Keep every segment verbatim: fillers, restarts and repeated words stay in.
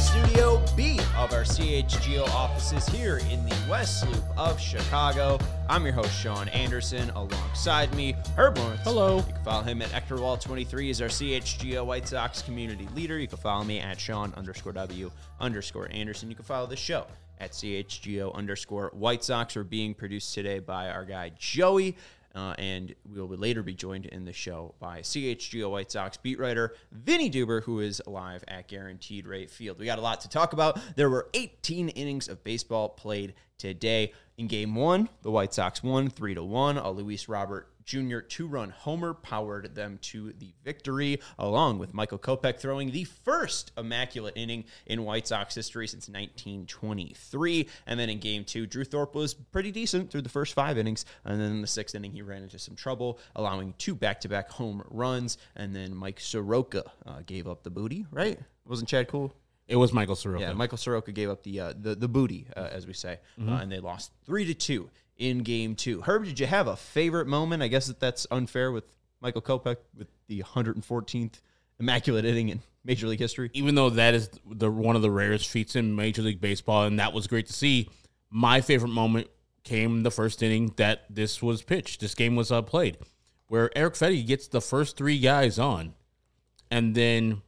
Studio B of our C H G O offices here in the West Loop of Chicago. I'm your host, Sean Anderson. Alongside me, Herb Lawrence. Hello. You can follow him at Ectorwall twenty-three. He's our C H G O White Sox community leader. You can follow me at Sean underscore W underscore Anderson. You can follow the show at C H G O underscore White Sox. We're being produced today by our guy, Joey. Uh, and we will later be joined in the show by C H G O White Sox beat writer Vinny Duber, who is live at Guaranteed Rate Field. We got a lot to talk about. There were eighteen innings of baseball played today. In game one, the White Sox won three to one. A Luis Robert Junior two-run homer powered them to the victory, along with Michael Kopech throwing the first immaculate inning in White Sox history since nineteen twenty-three. And then in game two, Drew Thorpe was pretty decent through the first five innings. And then in the sixth inning, he ran into some trouble, allowing two back-to-back home runs. And then Mike Soroka uh, gave up the booty, right? Wasn't Chad cool? It was Michael Soroka. Yeah, Michael Soroka gave up the uh, the, the booty, uh, as we say, mm-hmm. uh, and they lost three to two in game two. Herb, did you have a favorite moment? I guess that that's unfair with Michael Kopech with the one hundred fourteenth immaculate inning in Major League history. Even though that is the one of the rarest feats in Major League Baseball, and that was great to see, my favorite moment came the first inning that this was pitched. This game was uh, played, where Erick Fedde gets the first three guys on, and then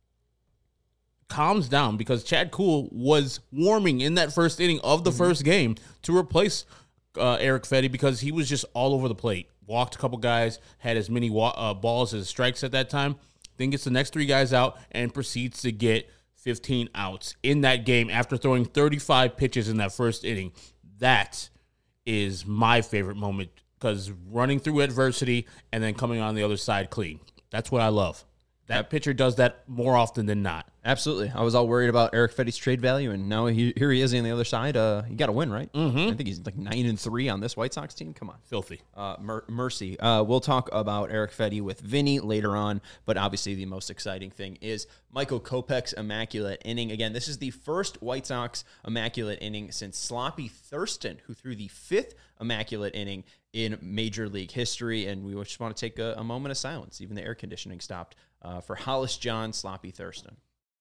calms down because Chad Kuhl was warming in that first inning of the mm-hmm. first game to replace uh, Erick Fedde because he was just all over the plate. Walked a couple guys, had as many wa- uh, balls as strikes at that time, then gets the next three guys out and proceeds to get fifteen outs in that game after throwing thirty-five pitches in that first inning. That is my favorite moment because running through adversity and then coming on the other side clean. That's what I love. That pitcher does that more often than not. Absolutely. I was all worried about Erick Fedde's trade value, and now he, here he is on the other side. Uh, you got to win, right? Mm-hmm. I think he's like nine and three on this White Sox team. Come on, filthy. Uh, mer- mercy. Uh, we'll talk about Erick Fedde with Vinny later on, but obviously the most exciting thing is Michael Kopech's immaculate inning. Again, this is the first White Sox immaculate inning since Sloppy Thurston, who threw the fifth immaculate inning in Major League history, and we just want to take a, a moment of silence. Even the air conditioning stopped uh, for Hollis John Sloppy Thurston.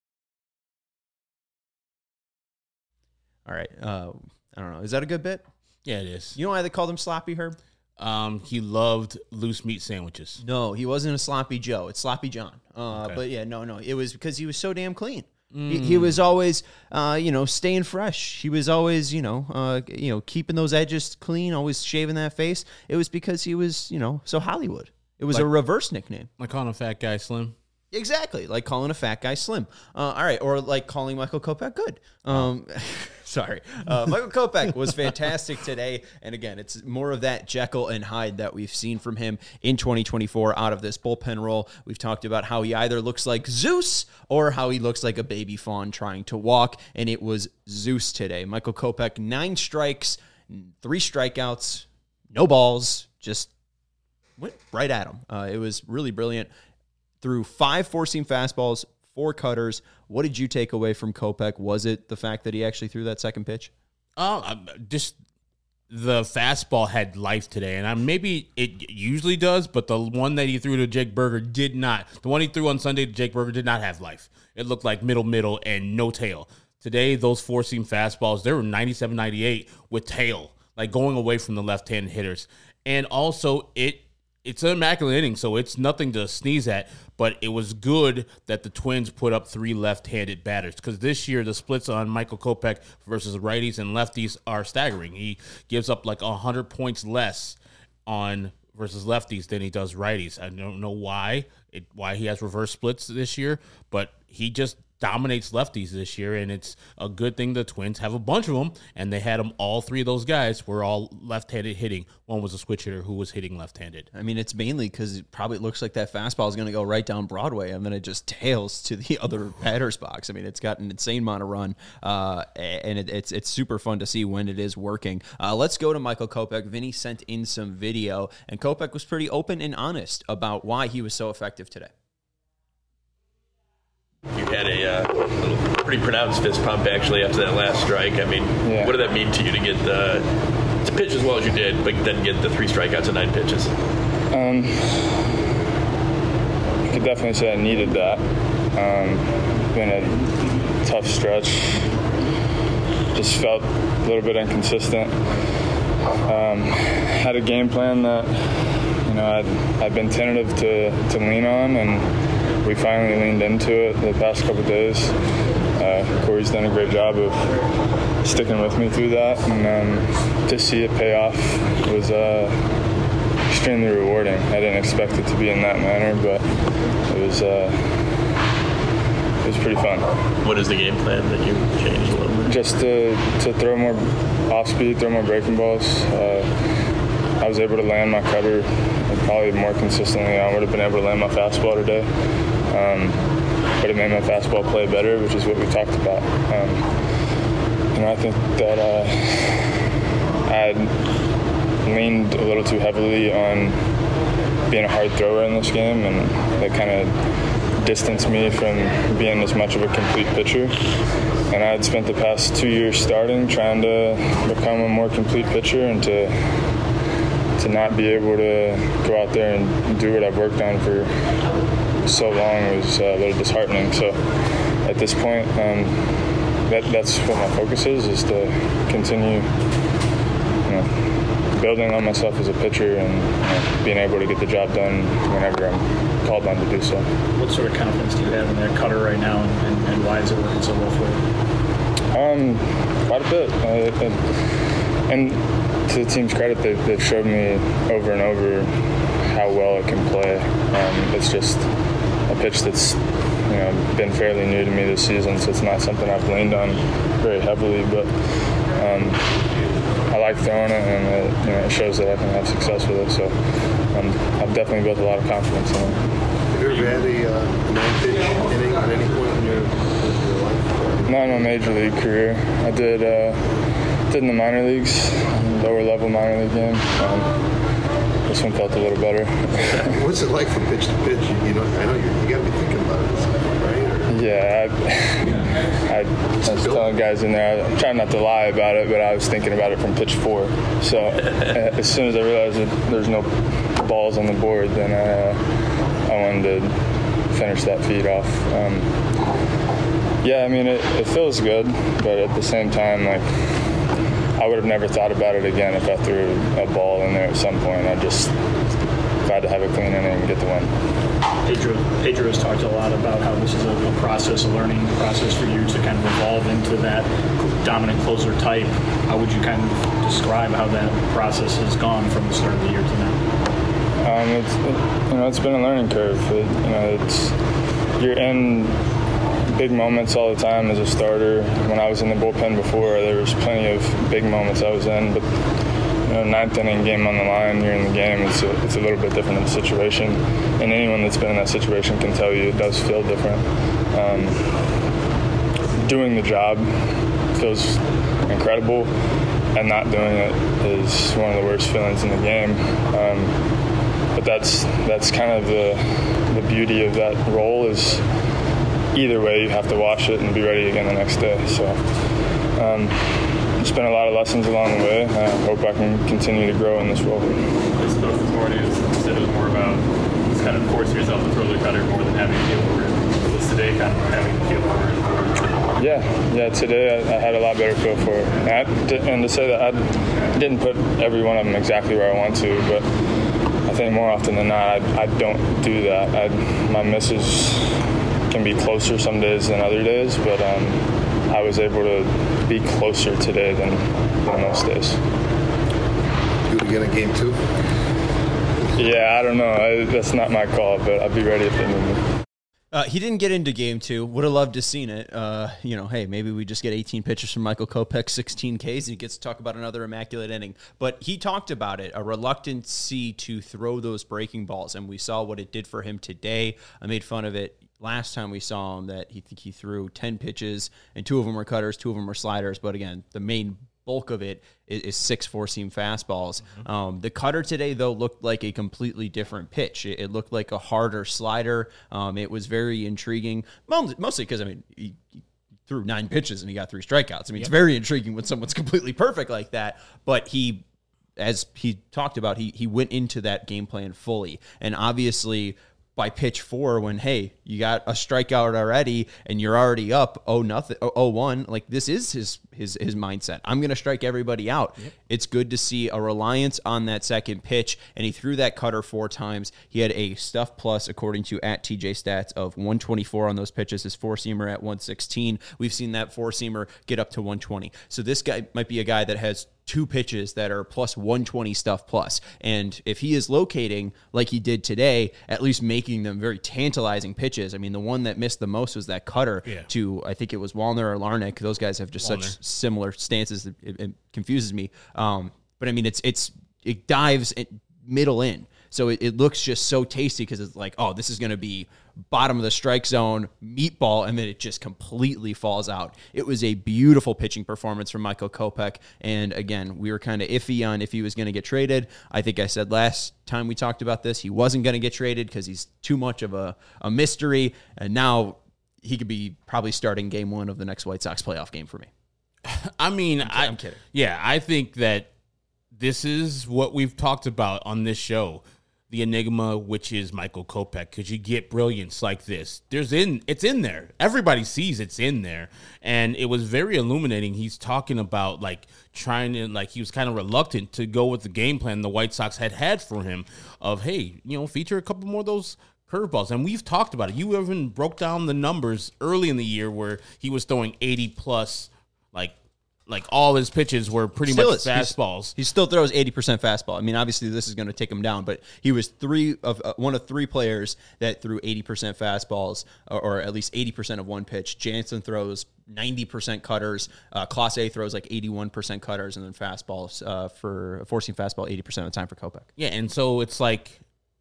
All right. Uh, I don't know. Is that a good bit? Yeah, it is. You know why they called him Sloppy, Herb? Um, he loved loose meat sandwiches. No, he wasn't a Sloppy Joe. It's Sloppy John. Uh, okay. But yeah, no, no. It was because he was so damn clean. Mm. He, he was always, uh, you know, staying fresh. He was always, you know, uh, you know, keeping those edges clean, always shaving that face. It was because he was, you know, so Hollywood. It was like, a reverse nickname. Like calling a fat guy Slim? Exactly, like calling a fat guy Slim. Uh, all right, or like calling Michael Kopech good. Um, sorry. Uh, Michael Kopech was fantastic today, and again, it's more of that Jekyll and Hyde that we've seen from him in twenty twenty-four out of this bullpen role. We've talked about how he either looks like Zeus or how he looks like a baby fawn trying to walk, and it was Zeus today. Michael Kopech, nine strikes, three strikeouts, no balls, just went right at him. Uh, it was really brilliant. Threw five four-seam fastballs, four cutters. What did you take away from Kopech? Was it the fact that he actually threw that second pitch? Oh, just the fastball had life today, and I, maybe it usually does, but the one that he threw to Jake Burger did not. The one he threw on Sunday to Jake Burger did not have life. It looked like middle, middle, and no tail. Today, those four-seam fastballs, they were ninety-seven, ninety-eight with tail, like going away from the left-hand hitters. And also, it It's an immaculate inning, so it's nothing to sneeze at, but it was good that the Twins put up three left-handed batters because this year the splits on Michael Kopech versus righties and lefties are staggering. He gives up like one hundred points less on versus lefties than he does righties. I don't know why it, why he has reverse splits this year, but he just dominates lefties this year, and it's a good thing the Twins have a bunch of them, and they had them, all three of those guys were all left-handed hitting. One was a switch hitter who was hitting left-handed. I mean, it's mainly because it probably looks like that fastball is going to go right down Broadway, and then it just tails to the other batter's box. I mean, it's got an insane amount of run, uh, and it, it's it's super fun to see when it is working. Uh, let's go to Michael Kopech. Vinny sent in some video, and Kopech was pretty open and honest about why he was so effective today. You had a uh, pretty pronounced fist pump, actually, after that last strike. I mean, yeah. What did that mean to you to get the to pitch as well as you did, but then get the three strikeouts and nine pitches? Um, you could definitely say I needed that. Um, been a tough stretch. Just felt a little bit inconsistent. Um, had a game plan that, you know, I'd, I'd been tentative to, to lean on, and we finally leaned into it the past couple of days. Uh, Corey's done a great job of sticking with me through that, and um, to see it pay off was uh, extremely rewarding. I didn't expect it to be in that manner, but it was uh, it was pretty fun. What is the game plan that you changed a little bit? Just to, to throw more off speed, throw more breaking balls. Uh, I was able to land my cutter probably more consistently. I would have been able to land my fastball today. Um, but it made my fastball play better, which is what we talked about. Um, you know, I think that uh, I leaned a little too heavily on being a hard thrower in this game, and that kind of distanced me from being as much of a complete pitcher. And I had spent the past two years starting, trying to become a more complete pitcher, and to to not be able to go out there and do what I've worked on for so long was a little disheartening. So at this point, um, that, that's what my focus is, is to continue, you know, building on myself as a pitcher and, you know, being able to get the job done whenever I'm called on to do so. What sort of confidence do you have in that cutter right now, and, and, and why is it working so well for you? Um, quite a bit. Uh, it, and to the team's credit, they've, they've showed me over and over how well it can play. Um, it's just a pitch that's, you know, been fairly new to me this season, so it's not something I've leaned on very heavily. But um, I like throwing it, and it, you know, it shows that I can have success with it. So um, I've definitely built a lot of confidence in it. Have you ever had a uh, nine-pitch inning at any point in your, your life? Not in my major league career. I did. Uh, did in the minor leagues, lower level minor league game. Um, this one felt a little better. What's it like from pitch to pitch? You know, I know you, you got to be thinking about it, right? Or... Yeah, I, I, I was telling guys in there, I'm trying not to lie about it, but I was thinking about it from pitch four. So as soon as I realized that there's no balls on the board, then I, uh, I wanted to finish that feed off. Um, yeah, I mean, it, it feels good, but at the same time, like, I would have never thought about it again if I threw a ball in there at some point. I just glad to have a clean inning and get the win. Pedro, Pedro has talked a lot about how this is a, a process, a learning process for you to kind of evolve into that dominant closer type. How would you kind of describe how that process has gone from the start of the year to now? Um, it's it, you know it's been a learning curve. It, you know it's you're in big moments all the time as a starter. When I was in the bullpen before, there was plenty of big moments I was in, but you know, ninth inning game on the line, you're in the game, it's a, it's a little bit different of a situation. And anyone that's been in that situation can tell you it does feel different. Um, doing the job feels incredible, and not doing it is one of the worst feelings in the game. Um, but that's that's kind of the the beauty of that role is either way, you have to wash it and be ready again the next day. So um, it's been a lot of lessons along the way. I hope I can continue to grow in this role. I spoke this morning, you said it was more about just kind of forcing yourself to throw the cutter more than having a feel for it. Was today kind of having a feel for it? Yeah, yeah. Today I, I had a lot better feel for it. And, I, and to say that I didn't put every one of them exactly where I want to, but I think more often than not, I, I don't do that. I, my misses can be closer some days than other days, but um, I was able to be closer today than, than most days. Do it again in game two? Yeah, I don't know. I, that's not my call, but I'll be ready if they need me. Uh, he didn't get into game two. Would have loved to seen it. Uh, you know, hey, maybe we just get eighteen pitches from Michael Kopech, sixteen Ks, and he gets to talk about another immaculate inning. But he talked about it, a reluctancy to throw those breaking balls, and we saw what it did for him today. I made fun of it last time we saw him that he think he threw ten pitches, and two of them were cutters, two of them were sliders. But again, the main bulk of it is, is six four-seam fastballs. Mm-hmm. Um, the cutter today, though, looked like a completely different pitch. It, it looked like a harder slider. Um, it was very intriguing, mostly because, I mean, he, he threw nine pitches and he got three strikeouts. I mean, yep. It's very intriguing when someone's completely perfect like that. But he, as he talked about, he he went into that game plan fully. And obviously, by pitch four when, hey, you got a strikeout already and you're already up oh nothing oh one. Like, this is his his his mindset. I'm going to strike everybody out. Yep. It's good to see a reliance on that second pitch, and he threw that cutter four times. He had a stuff plus, according to at T J Stats, of one twenty-four on those pitches. His four-seamer at one sixteen. We've seen that four-seamer get up to one twenty. So this guy might be a guy that has two pitches that are plus one twenty stuff plus. And if he is locating like he did today, at least making them very tantalizing pitches. I mean, the one that missed the most was that cutter yeah. to, I think it was Wallner or Larnach. Those guys have just Wallner. such similar stances that it, it confuses me. Um, but I mean, it's it's it dives it middle in. So it, it looks just so tasty because it's like, oh, this is going to be bottom of the strike zone, meatball, and then it just completely falls out. It was a beautiful pitching performance from Michael Kopech. And again, we were kind of iffy on if he was going to get traded. I think I said last time we talked about this, he wasn't going to get traded because he's too much of a, a mystery. And now he could be probably starting game one of the next White Sox playoff game for me. I mean, I'm, I, I'm kidding. Yeah, I think that this is what we've talked about on this show. The enigma, which is Michael Kopech, because you get brilliance like this. There's in it's in there. Everybody sees it's in there, and it was very illuminating. He's talking about like trying to like he was kind of reluctant to go with the game plan the White Sox had had for him of hey, you know, feature a couple more of those curveballs, and we've talked about it. You even broke down the numbers early in the year where he was throwing eighty plus, like. Like, all his pitches were pretty still much is. fastballs. He's, he still throws eighty percent fastball. I mean, obviously, this is going to take him down, but he was three of uh, one of three players that threw eighty percent fastballs, or, or at least eighty percent of one pitch. Jansen throws ninety percent cutters. Uh, Class A throws like eighty-one percent cutters, and then fastballs uh, for forcing fastball eighty percent of the time for Kopech. Yeah, and so it's like,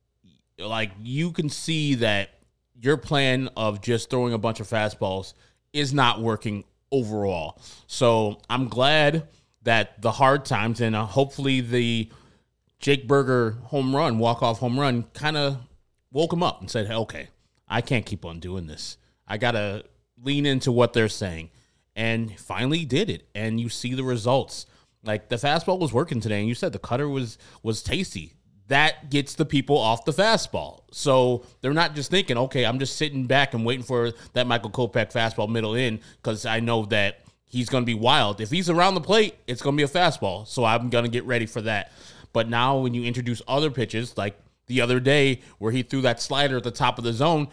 like you can see that your plan of just throwing a bunch of fastballs is not working overall. So I'm glad that the hard times and uh, hopefully the Jake Burger home run, walk-off home run, kind of woke him up and said, hey, okay, I can't keep on doing this. I got to lean into what they're saying. And finally did it. And you see the results. Like, the fastball was working today, and you said the cutter was was tasty. That gets the people off the fastball. So they're not just thinking, okay, I'm just sitting back and waiting for that Michael Kopech fastball middle in because I know that he's going to be wild. If he's around the plate, it's going to be a fastball. So I'm going to get ready for that. But now when you introduce other pitches, like the other day where he threw that slider at the top of the zone,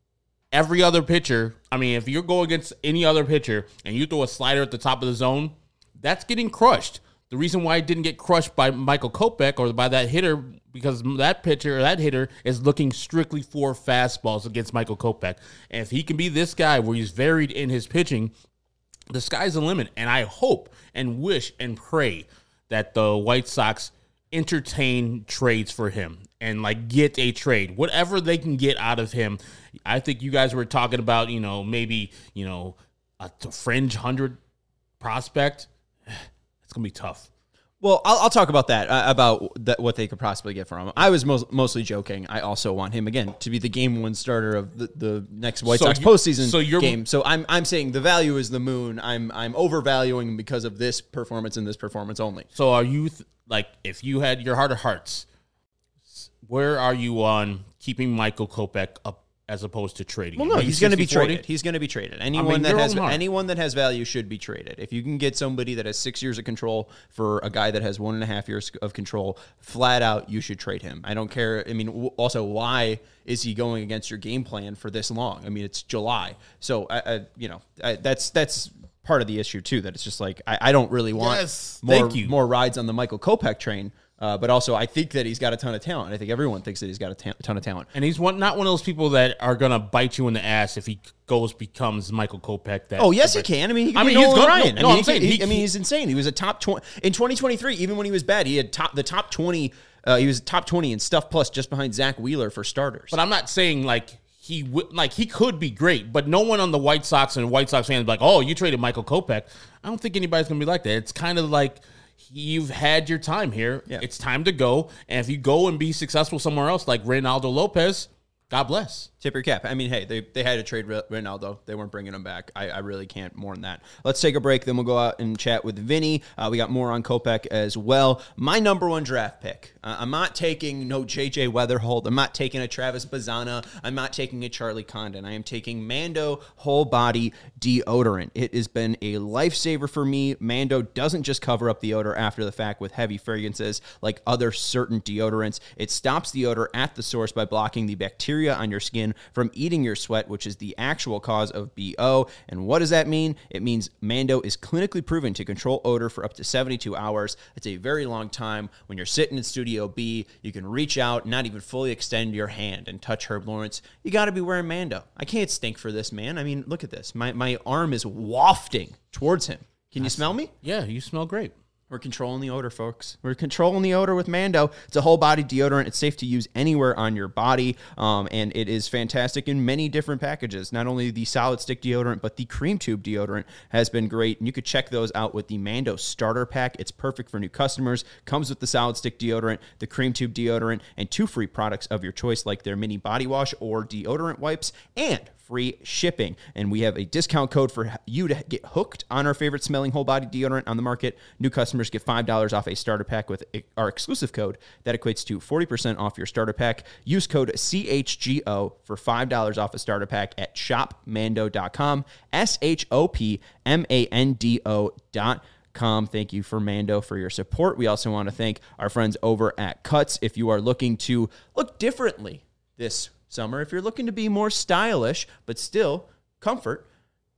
every other pitcher, I mean, if you're going against any other pitcher and you throw a slider at the top of the zone, that's getting crushed. The reason why it didn't get crushed by Michael Kopech or by that hitter, because that pitcher or that hitter is looking strictly for fastballs against Michael Kopech. And if he can be this guy where he's varied in his pitching, the sky's the limit. And I hope and wish and pray that the White Sox entertain trades for him and like get a trade, whatever they can get out of him. I think you guys were talking about, you know, maybe, you know, a fringe hundred prospect. It's going to be tough. Well, I'll, I'll talk about that, uh, about that, what they could possibly get from him. I was most, mostly joking. I also want him, again, to be the game one starter of the, the next White so Sox you, postseason so you're, game. So I'm I'm saying the value is the moon. I'm I'm overvaluing him because of this performance and this performance only. So are you, th- like, if you had your heart of hearts, where are you on keeping Michael Kopech up as opposed to trading? Well, no, he's going to be traded. He's going to be traded. Anyone I mean, that has anyone that has value should be traded. If you can get somebody that has six years of control for a guy that has one and a half years of control, flat out, you should trade him. I don't care. I mean, also, why is he going against your game plan for this long? I mean, it's July, so I, I you know, I, that's that's part of the issue too. That it's just like I, I don't really want yes, more more rides on the Michael Kopech train. Uh, but also, I think that he's got a ton of talent. I think everyone thinks that he's got a ta- ton of talent. And he's one, not one of those people that are going to bite you in the ass if he goes becomes Michael Kopech. That oh, yes, he can. I mean, he can I be mean, Nolan he's Ryan. No, no, I mean, I'm saying, he, he, I mean, he's insane. He was a top twenty in twenty twenty-three. Even when he was bad, he had top the top twenty. Uh, he was top twenty in stuff plus, just behind Zach Wheeler for starters. But I'm not saying like he w- like he could be great, but no one on the White Sox and White Sox fans be like, oh, you traded Michael Kopech. I don't think anybody's going to be like that. It's kind of like, you've had your time here. Yeah. It's time to go. And if you go and be successful somewhere else, like Reynaldo Lopez, God bless. Tip your cap. I mean, hey, they, they had to trade Ronaldo. They weren't bringing him back. I, I really can't mourn that. Let's take a break. Then we'll go out and chat with Vinny. Uh, we got more on Kopech as well. My number one draft pick. Uh, I'm not taking no J J Weatherhold. I'm not taking a Travis Bazzana. I'm not taking a Charlie Condon. I am taking Mando Whole Body Deodorant. It has been a lifesaver for me. Mando doesn't just cover up the odor after the fact with heavy fragrances like other certain deodorants. It stops the odor at the source by blocking the bacteria on your skin from eating your sweat, which is the actual cause of B O. And what does that mean? It means Mando is clinically proven to control odor for up to seventy-two hours. It's a very long time. When you're sitting in Studio B, you can reach out, not even fully extend your hand and touch Herb Lawrence. You got to be wearing Mando. I can't stink for this, man. I mean, look at this. My, my arm is wafting towards him. Can you smell me? Yeah, you smell great. We're controlling the odor, folks. We're controlling the odor with Mando. It's a whole body deodorant. It's safe to use anywhere on your body, um, and it is fantastic in many different packages. Not only the solid stick deodorant, but the cream tube deodorant has been great, and you could check those out with the Mando starter pack. It's perfect for new customers. Comes with the solid stick deodorant, the cream tube deodorant, and two free products of your choice, like their mini body wash or deodorant wipes, and free shipping. And we have a discount code for you to get hooked on our favorite smelling whole body deodorant on the market. New customers get five dollars off a starter pack with our exclusive code. That equates to forty percent off your starter pack. Use code C H G O for five dollars off a starter pack at shop mando dot com. S H O P M A N D O dot com. Thank you for Mando for your support. We also want to thank our friends over at Cuts. If you are looking to look differently this summer, if you're looking to be more stylish but still comfort,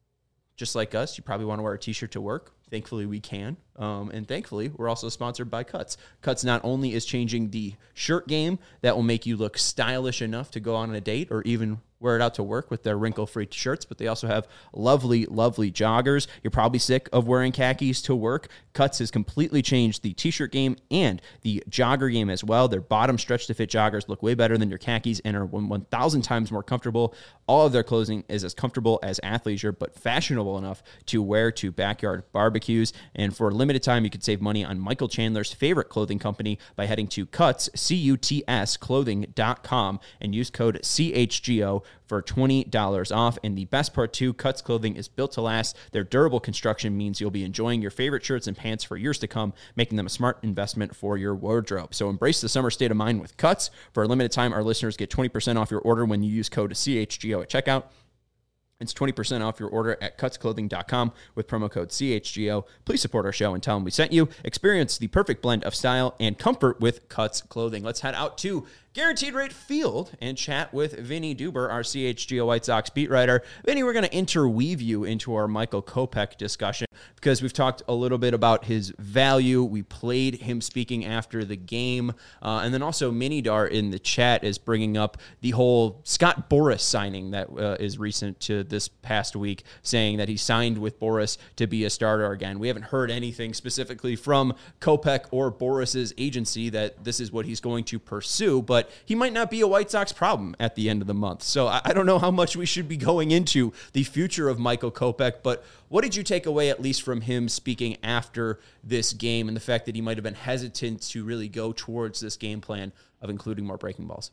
just like us, you probably want to wear a t-shirt to work. Thankfully, we can. Um, and thankfully, we're also sponsored by Cuts. Cuts not only is changing the shirt game that will make you look stylish enough to go on a date or even wear it out to work with their wrinkle-free shirts, but they also have lovely, lovely joggers. You're probably sick of wearing khakis to work. Cuts has completely changed the t-shirt game and the jogger game as well. Their bottom stretch-to-fit joggers look way better than your khakis and are one thousand times more comfortable. All of their clothing is as comfortable as athleisure, but fashionable enough to wear to backyard barbecues. And for a limited time, you can save money on Michael Chandler's favorite clothing company by heading to Cuts, C U T S, clothing dot com and use code C H G O for twenty dollars off. And the best part too, Cuts clothing is built to last. Their durable construction means you'll be enjoying your favorite shirts and pants for years to come, making them a smart investment for your wardrobe. So embrace the summer state of mind with Cuts. For a limited time, our listeners get twenty percent off your order when you use code C H G O at checkout. It's twenty percent off your order at cuts clothing dot com with promo code C H G O. Please support our show and tell them we sent you. Experience the perfect blend of style and comfort with Cuts clothing. Let's head out to Guaranteed Rate Field and chat with Vinny Duber, our C H G O White Sox beat writer. Vinny, we're going to interweave you into our Michael Kopech discussion because we've talked a little bit about his value. We played him speaking after the game. Uh, and then also Minidar in the chat is bringing up the whole Scott Boras signing that uh, is recent to this past week, saying that he signed with Boras to be a starter again. We haven't heard anything specifically from Kopech or Boras's agency that this is what he's going to pursue, but he might not be a White Sox problem at the end of the month. So I, I don't know how much we should be going into the future of Michael Kopech, but what did you take away at least from him speaking after this game and the fact that he might have been hesitant to really go towards this game plan of including more breaking balls?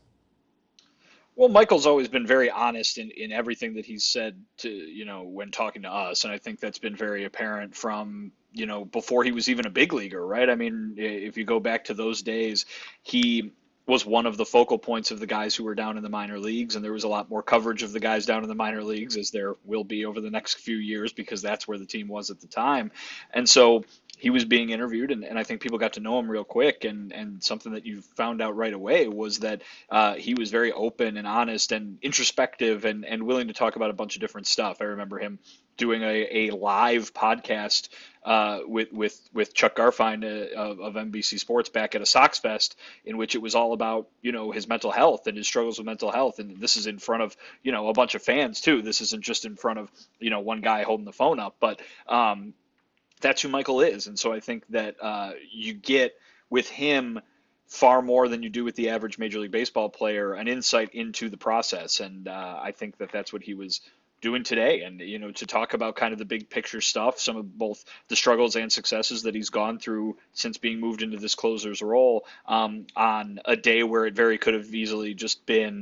Well, Michael's always been very honest in, in everything that he's said to, you know, when talking to us. And I think that's been very apparent from, you know, before he was even a big leaguer, right? I mean, if you go back to those days, he was one of the focal points of the guys who were down in the minor leagues. And there was a lot more coverage of the guys down in the minor leagues, as there will be over the next few years, because that's where the team was at the time. And so he was being interviewed, and, and I think people got to know him real quick. And, and something that you found out right away was that uh, he was very open and honest and introspective and, and willing to talk about a bunch of different stuff. I remember him doing a, a live podcast uh, with, with, with Chuck Garfien uh, of, of N B C Sports back at a Sox Fest, in which it was all about, you know, his mental health and his struggles with mental health. And this is in front of, you know, a bunch of fans too. This isn't just in front of, you know, one guy holding the phone up, but um, that's who Michael is. And so I think that uh, you get with him far more than you do with the average Major League Baseball player, an insight into the process. And uh, I think that that's what he was doing today. And, you know, to talk about kind of the big picture stuff, some of both the struggles and successes that he's gone through since being moved into this closer's role um, on a day where it very could have easily just been,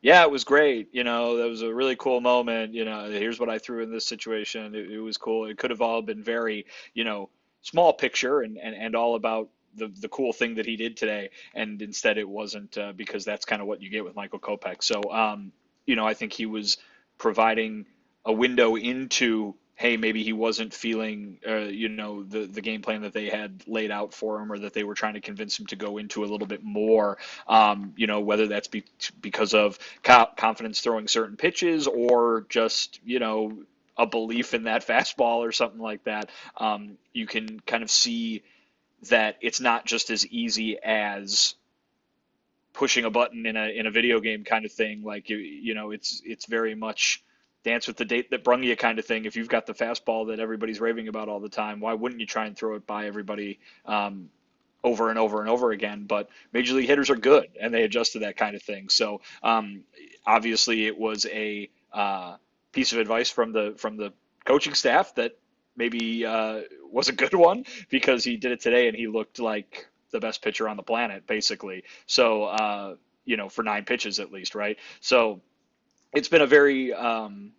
Yeah, it was great. You know, that was a really cool moment. You know, here's what I threw in this situation. It, it was cool. It could have all been very, you know, small picture and, and, and all about the, the cool thing that he did today. And instead it wasn't, uh, because that's kind of what you get with Michael Kopech. So, um, you know, I think he was providing a window into, hey, maybe he wasn't feeling, uh, you know, the, the game plan that they had laid out for him, or that they were trying to convince him to go into a little bit more, um, you know, whether that's be, because of co- confidence throwing certain pitches, or just, you know, a belief in that fastball or something like that. Um, you can kind of see that it's not just as easy as pushing a button in a in a video game kind of thing. Like, you, you know, it's it's very much dance with the date that brung you kind of thing. If you've got the fastball that everybody's raving about all the time, why wouldn't you try and throw it by everybody um, over and over and over again? But major league hitters are good, and they adjust to that kind of thing. So um, obviously it was a uh, piece of advice from the from the coaching staff that maybe uh, was a good one, because he did it today and he looked like the best pitcher on the planet, basically. So, uh, you know, for nine pitches at least, right? So it's been a very, um,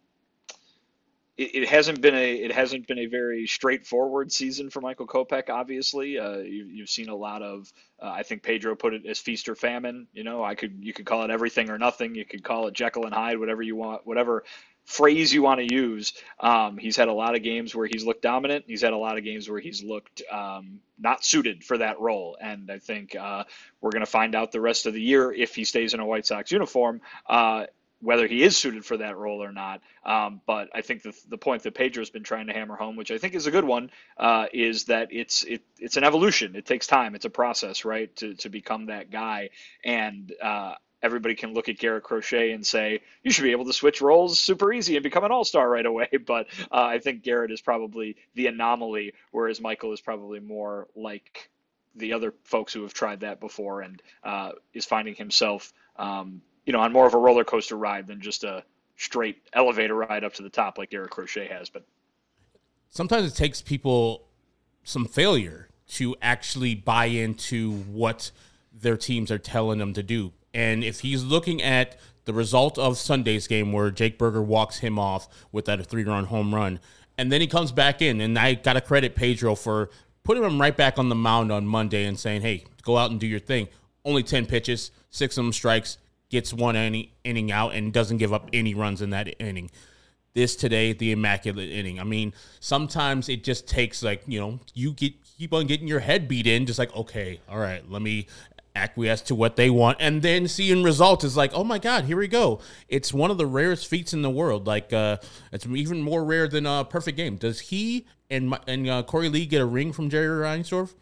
it, it hasn't been a, it hasn't been a very straightforward season for Michael Kopech. Obviously, uh, you, you've seen a lot of, uh, I think Pedro put it as feast or famine. You know, I could, you could call it everything or nothing. You could call it Jekyll and Hyde, whatever you want, whatever phrase you want to use. Um, he's had a lot of games where he's looked dominant. He's had a lot of games where he's looked um, not suited for that role. And I think uh, we're going to find out the rest of the year, if he stays in a White Sox uniform, uh, whether he is suited for that role or not. Um, but I think the the point that Pedro's been trying to hammer home, which I think is a good one, uh, is that it's it it's an evolution. It takes time. It's a process, right, to to become that guy. And uh, everybody can look at Garrett Crochet and say, you should be able to switch roles super easy and become an all-star right away. But uh, I think Garrett is probably the anomaly, whereas Michael is probably more like the other folks who have tried that before, and uh, is finding himself um, you know, on more of a roller coaster ride than just a straight elevator ride up to the top like Garrett Crochet has. But sometimes it takes people some failure to actually buy into what their teams are telling them to do. And if he's looking at the result of Sunday's game, where Jake Burger walks him off with that three-run home run, and then he comes back in, and I got to credit Pedro for putting him right back on the mound on Monday and saying, hey, go out and do your thing. Only ten pitches, six of them strikes, gets one inning, inning out, and doesn't give up any runs in that inning. This today, the immaculate inning. I mean, sometimes it just takes, like, you know, you get keep on getting your head beat in, just like, okay, all right, let me acquiesce to what they want, and then seeing results is like, oh my God, here we go. It's one of the rarest feats in the world. Like, uh, it's even more rare than a perfect game. Does he and and uh, Corey Lee get a ring from Jerry Reinsdorf?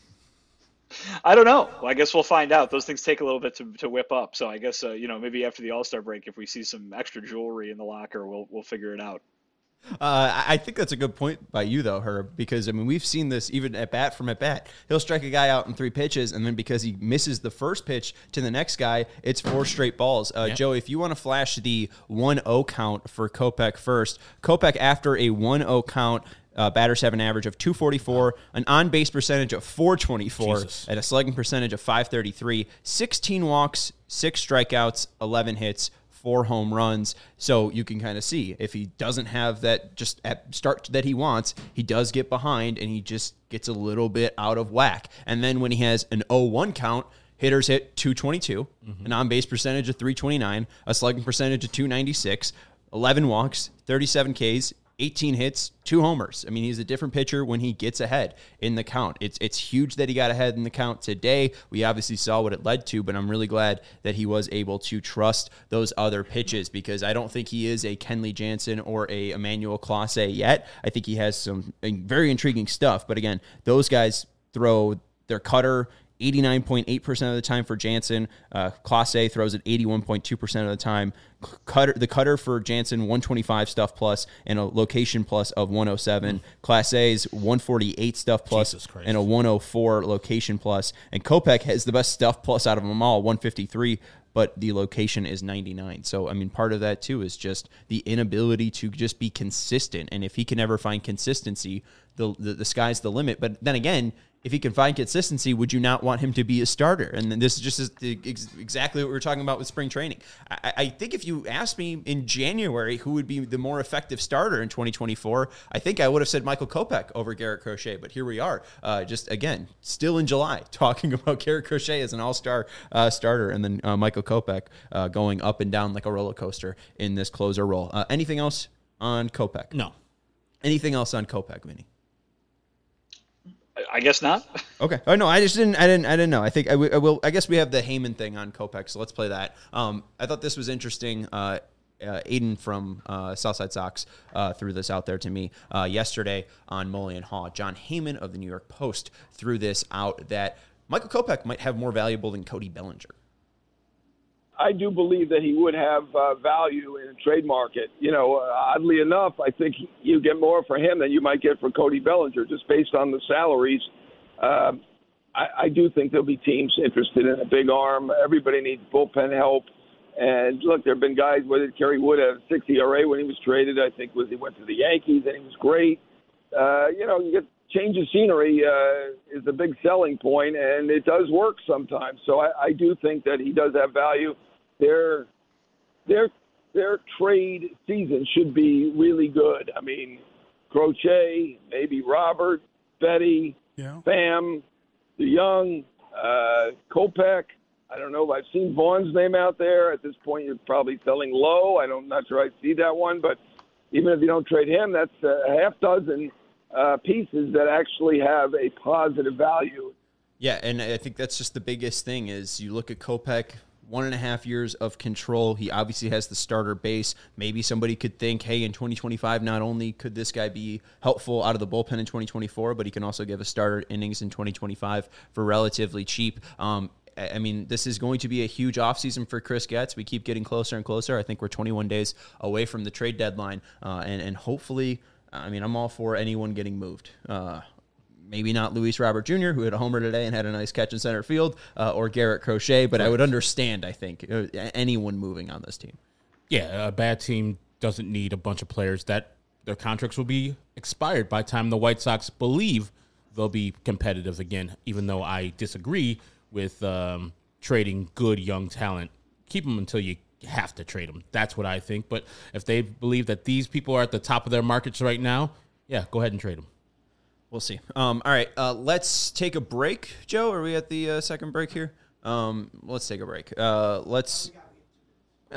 I don't know. Well, I guess we'll find out. Those things take a little bit to, to whip up. So I guess, uh, you know, maybe after the All-Star break, if we see some extra jewelry in the locker, we'll we'll figure it out. Uh, I think that's a good point by you, though, Herb, because, I mean, we've seen this even at bat from at bat. He'll strike a guy out in three pitches, and then because he misses the first pitch to the next guy, it's four straight balls. Uh, yep. Joey, if you want to flash the one oh count for Kopech first, Kopech, after a one oh count, Uh, batters have an average of two forty-four, an on-base percentage of four twenty-four, Jesus. And a slugging percentage of five thirty-three, sixteen walks, six strikeouts, eleven hits, four home runs. So you can kind of see, if he doesn't have that just at start that he wants, he does get behind and he just gets a little bit out of whack. And then when he has an oh one count, hitters hit two twenty-two, mm-hmm. an on-base percentage of three twenty-nine, a slugging percentage of two ninety-six, eleven walks, thirty-seven Ks, eighteen hits, two homers. I mean, he's a different pitcher when he gets ahead in the count. It's it's huge that he got ahead in the count today. We obviously saw what it led to, but I'm really glad that he was able to trust those other pitches, because I don't think he is a Kenley Jansen or a Emmanuel Clase yet. I think he has some very intriguing stuff, but again, those guys throw their cutter eighty-nine point eight percent of the time for Jansen. Uh, Clase throws it eighty-one point two percent of the time. Cutter, the cutter for Jansen, one twenty-five stuff plus and a location plus of one oh seven. Mm. Clase's one forty-eight stuff plus and a one oh four location plus. And Kopech has the best stuff plus out of them all, one fifty-three, but the location is ninety-nine. So, I mean, part of that, too, is just the inability to just be consistent. And if he can ever find consistency, the the, the sky's the limit. But then again, if he can find consistency, would you not want him to be a starter? And then this is just ex- exactly what we were talking about with spring training. I, I think if you asked me in January who would be the more effective starter in twenty twenty-four, I think I would have said Michael Kopech over Garrett Crochet. But here we are, uh, just again, still in July, talking about Garrett Crochet as an all-star uh, starter, and then uh, Michael Kopech uh, going up and down like a roller coaster in this closer role. Uh, anything else on Kopech? No. Anything else on Kopech, Vinny? I guess not. Okay. Oh no, I just didn't. I didn't. I didn't know. I think I, w- I will. I guess we have the Heyman thing on Kopech, so let's play that. Um, I thought this was interesting. Uh, uh, Aiden from uh, Southside Sox uh, threw this out there to me uh, yesterday on Mullion Hall. John Heyman of the New York Post threw this out that Michael Kopech might have more valuable than Cody Bellinger. I do believe that he would have uh, value in a trade market. You know, uh, oddly enough, I think you get more for him than you might get for Cody Bellinger, just based on the salaries. Uh, I, I do think there'll be teams interested in a big arm. Everybody needs bullpen help. And look, there have been guys, whether Kerry Wood had a six E R A when he was traded, I think was he went to the Yankees and he was great. Uh, you know, you get change of scenery uh, is a big selling point, and it does work sometimes. So I, I do think that he does have value. Their their their trade season should be really good. I mean, Crochet, maybe Robert, Betty, yeah. Pham, DeYoung, uh, Kopech. I don't know if I've seen Vaughn's name out there. At this point, you're probably selling low. I don't, I'm not sure I see that one. But even if you don't trade him, that's a half dozen uh, pieces that actually have a positive value. Yeah, and I think that's just the biggest thing is you look at Kopech, one and a half years of control. He obviously has the starter base. Maybe somebody could think, hey, in twenty twenty-five, not only could this guy be helpful out of the bullpen in twenty twenty-four, but he can also give a starter innings in twenty twenty-five for relatively cheap. Um, I mean, this is going to be a huge offseason for Chris Getz. We keep getting closer and closer. I think we're twenty-one days away from the trade deadline. Uh, and, and hopefully, I mean, I'm all for anyone getting moved. Uh, maybe not Luis Robert Junior, who hit a homer today and had a nice catch in center field, uh, or Garrett Crochet, but I would understand, I think, uh, anyone moving on this team. Yeah, a bad team doesn't need a bunch of players that their contracts will be expired by the time the White Sox believe they'll be competitive again, even though I disagree with um, trading good young talent. Keep them until you have to trade them. That's what I think. But if they believe that these people are at the top of their markets right now, yeah, go ahead and trade them. We'll see. Um, all right, uh, let's take a break. Joe, are we at the uh, second break here? Um, let's take a break. Uh, let's. Uh,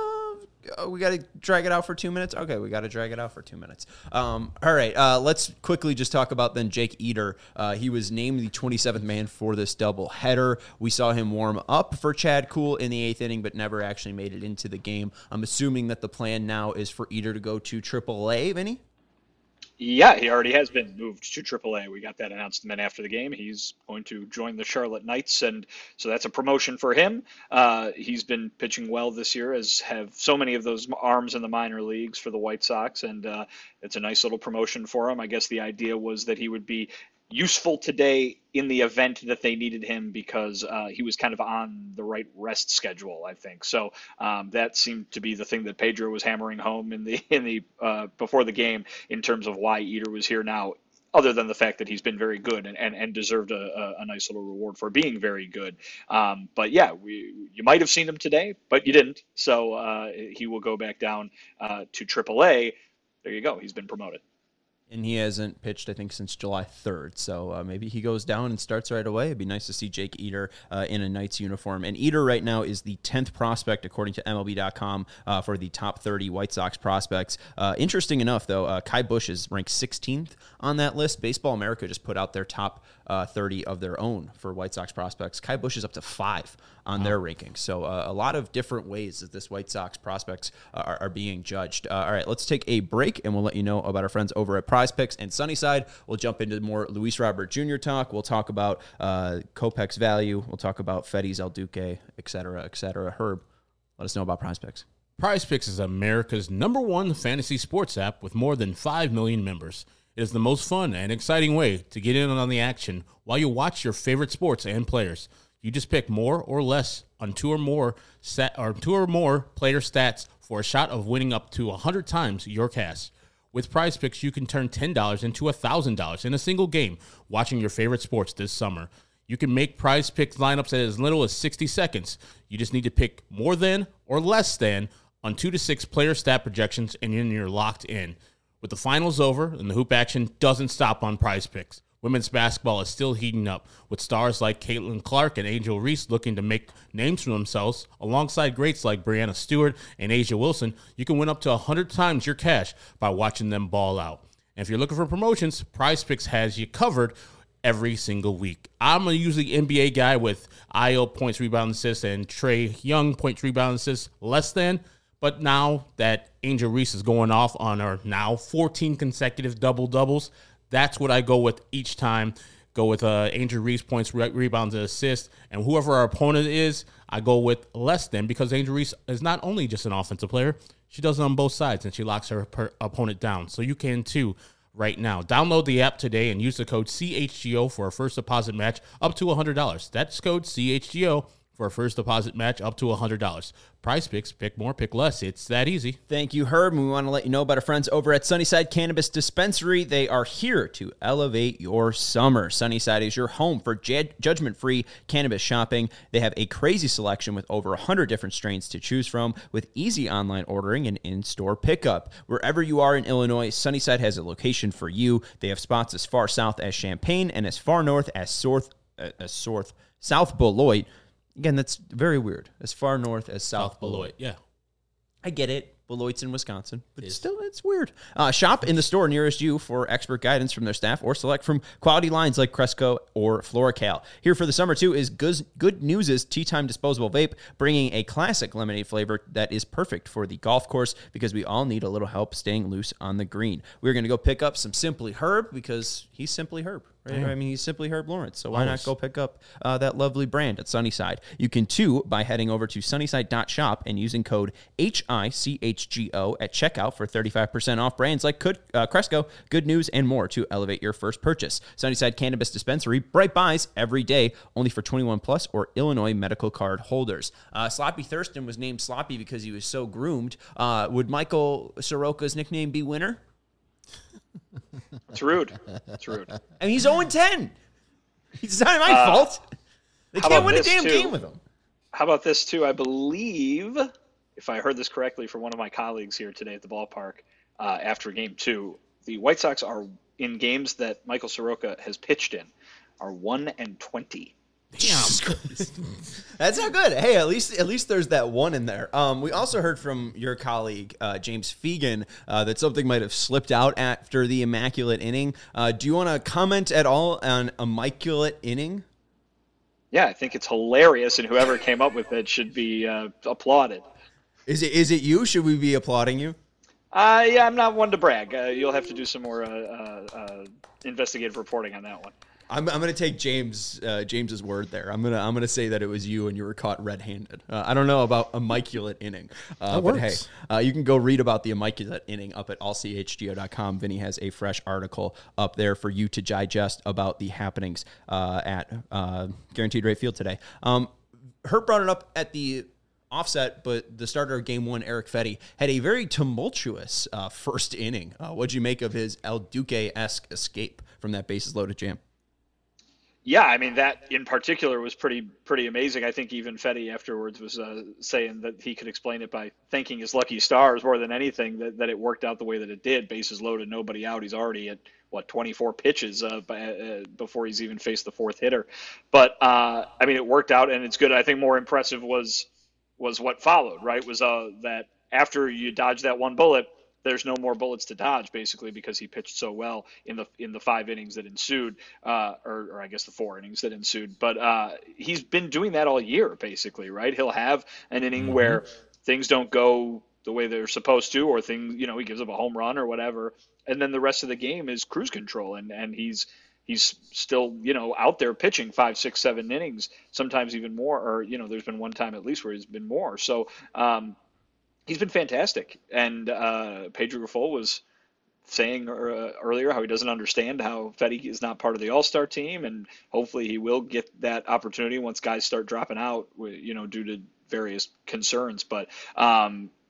we got to drag it out for two minutes. Okay, we got to drag it out for two minutes. Um, all right, uh, let's quickly just talk about then Jake Eder. Uh, he was named the twenty-seventh man for this double header. We saw him warm up for Chad Kuhl in the eighth inning, but never actually made it into the game. I'm assuming that the plan now is for Eder to go to triple A, Vinny? Yeah, he already has been moved to triple A. We got that announcement after the game. He's going to join the Charlotte Knights, and so that's a promotion for him. Uh, he's been pitching well this year, as have so many of those arms in the minor leagues for the White Sox, and uh, it's a nice little promotion for him. I guess the idea was that he would be useful today in the event that they needed him, because uh, he was kind of on the right rest schedule, I think. So um, that seemed to be the thing that Pedro was hammering home in the in the uh, before the game in terms of why Eder was here now, other than the fact that he's been very good and, and, and deserved a, a nice little reward for being very good. Um, but yeah, we, you might have seen him today, but you didn't. So uh, he will go back down uh, to triple A. There you go. He's been promoted. And he hasn't pitched, I think, since July third. So uh, maybe he goes down and starts right away. It'd be nice to see Jake Eder uh, in a Knights uniform. And Eder right now is the tenth prospect, according to M L B dot com, uh, for the top thirty White Sox prospects. Uh, interesting enough, though, uh, Kai Busch is ranked sixteenth on that list. Baseball America just put out their top uh, thirty of their own for White Sox prospects. Kai Busch is up to five on their rankings. So uh, a lot of different ways that this White Sox prospects uh, are, are being judged. Uh, all right, let's take a break, and we'll let you know about our friends over at Prize Picks and Sunnyside. We'll jump into more Luis Robert Junior talk. We'll talk about uh, Kopech's value. We'll talk about Feddy's El Duque, et cetera, et cetera. Herb, let us know about Prize Picks. Prize Picks is America's number one fantasy sports app with more than five million members. It is the most fun and exciting way to get in on the action while you watch your favorite sports and players. You just pick more or less on two or more stat, or two or more player stats for a shot of winning up to one hundred times your cash. With Prize Picks, you can turn ten dollars into one thousand dollars in a single game watching your favorite sports this summer. You can make Prize Picks lineups in as little as sixty seconds. You just need to pick more than or less than on two to six player stat projections, and then you're locked in. With the finals over and the hoop action doesn't stop on Prize Picks, women's basketball is still heating up, with stars like Caitlin Clark and Angel Reese looking to make names for themselves. Alongside greats like Brianna Stewart and Asia Wilson, you can win up to one hundred times your cash by watching them ball out. And if you're looking for promotions, Prize Picks has you covered every single week. I'm a usually N B A guy with Ayo points, rebound, assists, and Trae Young points, rebound, assists less than. But now that Angel Reese is going off on her now fourteen consecutive double-doubles, that's what I go with each time. Go with uh, Angel Reese points, re- rebounds, and assists. And whoever our opponent is, I go with less than, because Angel Reese is not only just an offensive player, she does it on both sides, and she locks her per- opponent down. So you can too right now. Download the app today and use the code C H G O for a first deposit match up to one hundred dollars. That's code C H G O for a first deposit match up to one hundred dollars. Prize Picks, pick more, pick less. It's that easy. Thank you, Herb. And we want to let you know about our friends over at Sunnyside Cannabis Dispensary. They are here to elevate your summer. Sunnyside is your home for ju- judgment-free cannabis shopping. They have a crazy selection with over one hundred different strains to choose from, with easy online ordering and in-store pickup. Wherever you are in Illinois, Sunnyside has a location for you. They have spots as far south as Champaign and as far north as South, uh, as South, South Beloit. Again, that's very weird. As far north as South, South Beloit. Beloit. Yeah. I get it. Beloit's in Wisconsin, but it still, it's weird. Uh, shop in the store nearest you for expert guidance from their staff, or select from quality lines like Cresco or FloraCal. Here for the summer, too, is Good, Good News' Tea Time Disposable Vape, bringing a classic lemonade flavor that is perfect for the golf course, because we all need a little help staying loose on the green. We're going to go pick up some Simply Herb, because he's Simply Herb. Right? Yeah. I mean, he's Simply Herb Lawrence, so why not go pick up uh, that lovely brand at Sunnyside? You can, too, by heading over to sunnyside dot shop and using code H I C H G O at checkout for thirty-five percent off brands like Good, uh, Cresco, Good News, and more to elevate your first purchase. Sunnyside Cannabis Dispensary, bright buys every day, only for twenty-one plus or Illinois medical card holders. Uh, Sloppy Thurston was named Sloppy because he was so groomed. Uh, would Michael Soroka's nickname be Winner? It's rude. It's rude. And he's oh and ten. It's not my uh, fault. They can't win a damn too? game with him. How about this, too? I believe, if I heard this correctly from one of my colleagues here today at the ballpark, uh, after game two, the White Sox are, in games that Michael Soroka has pitched in, are one and twenty. Damn. That's not good. Hey, at least at least there's that one in there. Um, we also heard from your colleague, uh, James Fegan, uh, that something might have slipped out after the immaculate inning. Uh, do you want to comment at all on immaculate inning? Yeah, I think it's hilarious, and whoever came up with it should be uh, applauded. Is it is it you? Should we be applauding you? Uh, yeah, I'm not one to brag. Uh, you'll have to do some more uh, uh, uh, investigative reporting on that one. I'm I'm gonna take James uh, James's word there. I'm gonna I'm gonna say that it was you and you were caught red-handed. Uh, I don't know about immaculate inning, uh, that but works. hey, uh, you can go read about the immaculate inning up at all c h g o dot com. Vinny has a fresh article up there for you to digest about the happenings uh, at uh, Guaranteed Rate Field today. Um, Herb brought it up at the offset, but the starter of game one, Erick Fedde, had a very tumultuous uh, first inning. Uh, what'd you make of his El Duque-esque escape from that bases loaded jam? Yeah, I mean, that in particular was pretty pretty amazing. I think even Fedde afterwards was uh, saying that he could explain it by thanking his lucky stars more than anything, that, that it worked out the way that it did. Bases loaded, nobody out. He's already at, what, twenty-four pitches uh, by, uh, before he's even faced the fourth hitter. But, uh, I mean, it worked out, and it's good. I think more impressive was was what followed, right, was uh, that after you dodge that one bullet, there's no more bullets to dodge, basically, because he pitched so well in the in the five innings that ensued, uh, or, or I guess the four innings that ensued. But uh, he's been doing that all year, basically, right? He'll have an inning mm-hmm. where things don't go the way they're supposed to, or things, you know, he gives up a home run or whatever, and then the rest of the game is cruise control, and and he's he's still, you know, out there pitching five, six, seven innings, sometimes even more, or you know, there's been one time at least where he's been more. So. Um, He's been fantastic, and uh, Pedro Grifol was saying uh, earlier how he doesn't understand how Fedde is not part of the All-Star team, and hopefully he will get that opportunity once guys start dropping out, you know, due to various concerns. But um,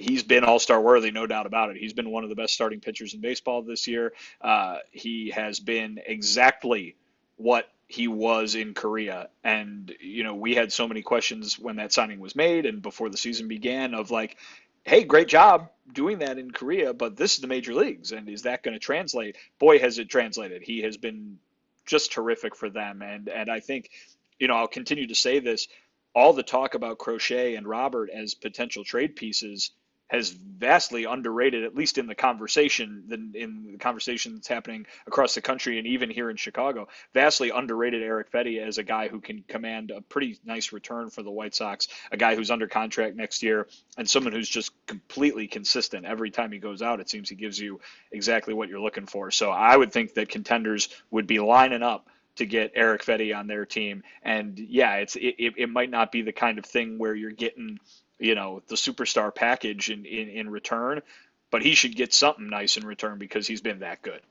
he's been all-star worthy, no doubt about it. He's been one of the best starting pitchers in baseball this year. Uh, he has been exactly what he was in Korea. And, you know, we had so many questions when that signing was made and before the season began of like, hey, great job doing that in Korea, but this is the major leagues. And is that going to translate? Boy, has it translated. He has been just terrific for them. And, and I think, you know, I'll continue to say this, all the talk about Crochet and Robert as potential trade pieces has vastly underrated, at least in the conversation, than in the conversation that's happening across the country and even here in Chicago, vastly underrated Erick Fedde as a guy who can command a pretty nice return for the White Sox, a guy who's under contract next year, and someone who's just completely consistent. Every time he goes out, it seems he gives you exactly what you're looking for. So I would think that contenders would be lining up to get Erick Fedde on their team. And yeah, it's it, it might not be the kind of thing where you're getting, you know, the superstar package in, in, in return, but he should get something nice in return because he's been that good.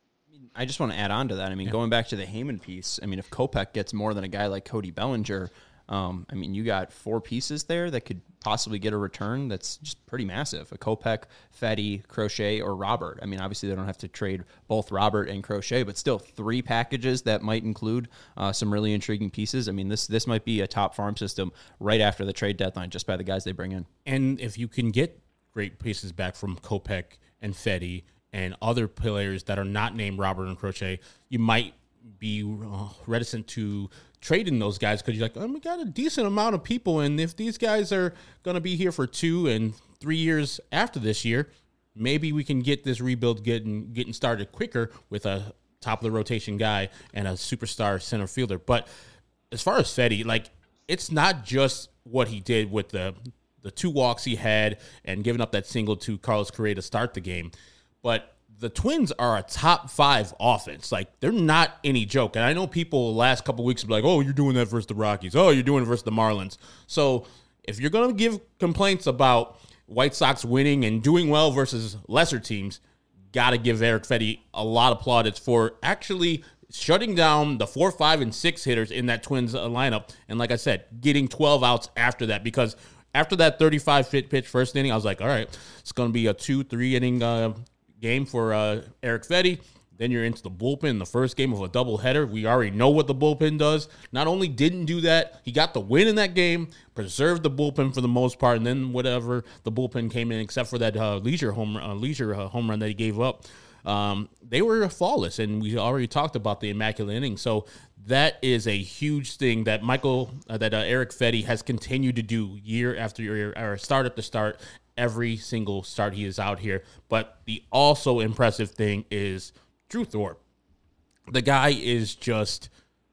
I just want to add on to that. I mean, yeah. going back to the Heyman piece, I mean, if Kopech gets more than a guy like Cody Bellinger, um, I mean, you got four pieces there that could possibly get a return that's just pretty massive. A Kopech, Fedde, Crochet, or Robert. I mean, obviously they don't have to trade both Robert and Crochet, but still three packages that might include uh, some really intriguing pieces. I mean, this this might be a top farm system right after the trade deadline just by the guys they bring in. And if you can get great pieces back from Kopech and Fedde and other players that are not named Robert and Crochet, you might be uh, reticent to trading those guys because you're like, oh, we got a decent amount of people, and if these guys are going to be here for two and three years after this year, maybe we can get this rebuild getting getting started quicker with a top of the rotation guy and a superstar center fielder. But as far as Fedde, like, it's not just what he did with the the two walks he had and giving up that single to Carlos Correa to start the game, but the Twins are a top five offense. Like, they're not any joke. And I know people the last couple of weeks will be like, oh, you're doing that versus the Rockies. Oh, you're doing it versus the Marlins. So if you're going to give complaints about White Sox winning and doing well versus lesser teams, got to give Erick Fedde a lot of plaudits for actually shutting down the four, five, and six hitters in that Twins lineup. And like I said, getting twelve outs after that, because after that thirty-five pitch first inning, I was like, all right, it's going to be a two, three inning uh, game for uh, Erick Fedde. Then you're into the bullpen, the first game of a doubleheader. We already know what the bullpen does. Not only didn't do that, he got the win in that game, preserved the bullpen for the most part, and then whatever the bullpen came in, except for that uh, leisure home uh, leisure uh, home run that he gave up, um, they were flawless. And we already talked about the immaculate inning. So that is a huge thing that Michael, uh, that uh, Erick Fedde has continued to do year after year, or start after start. Every single start he is out here. But the also impressive thing is Drew Thorpe. The guy is just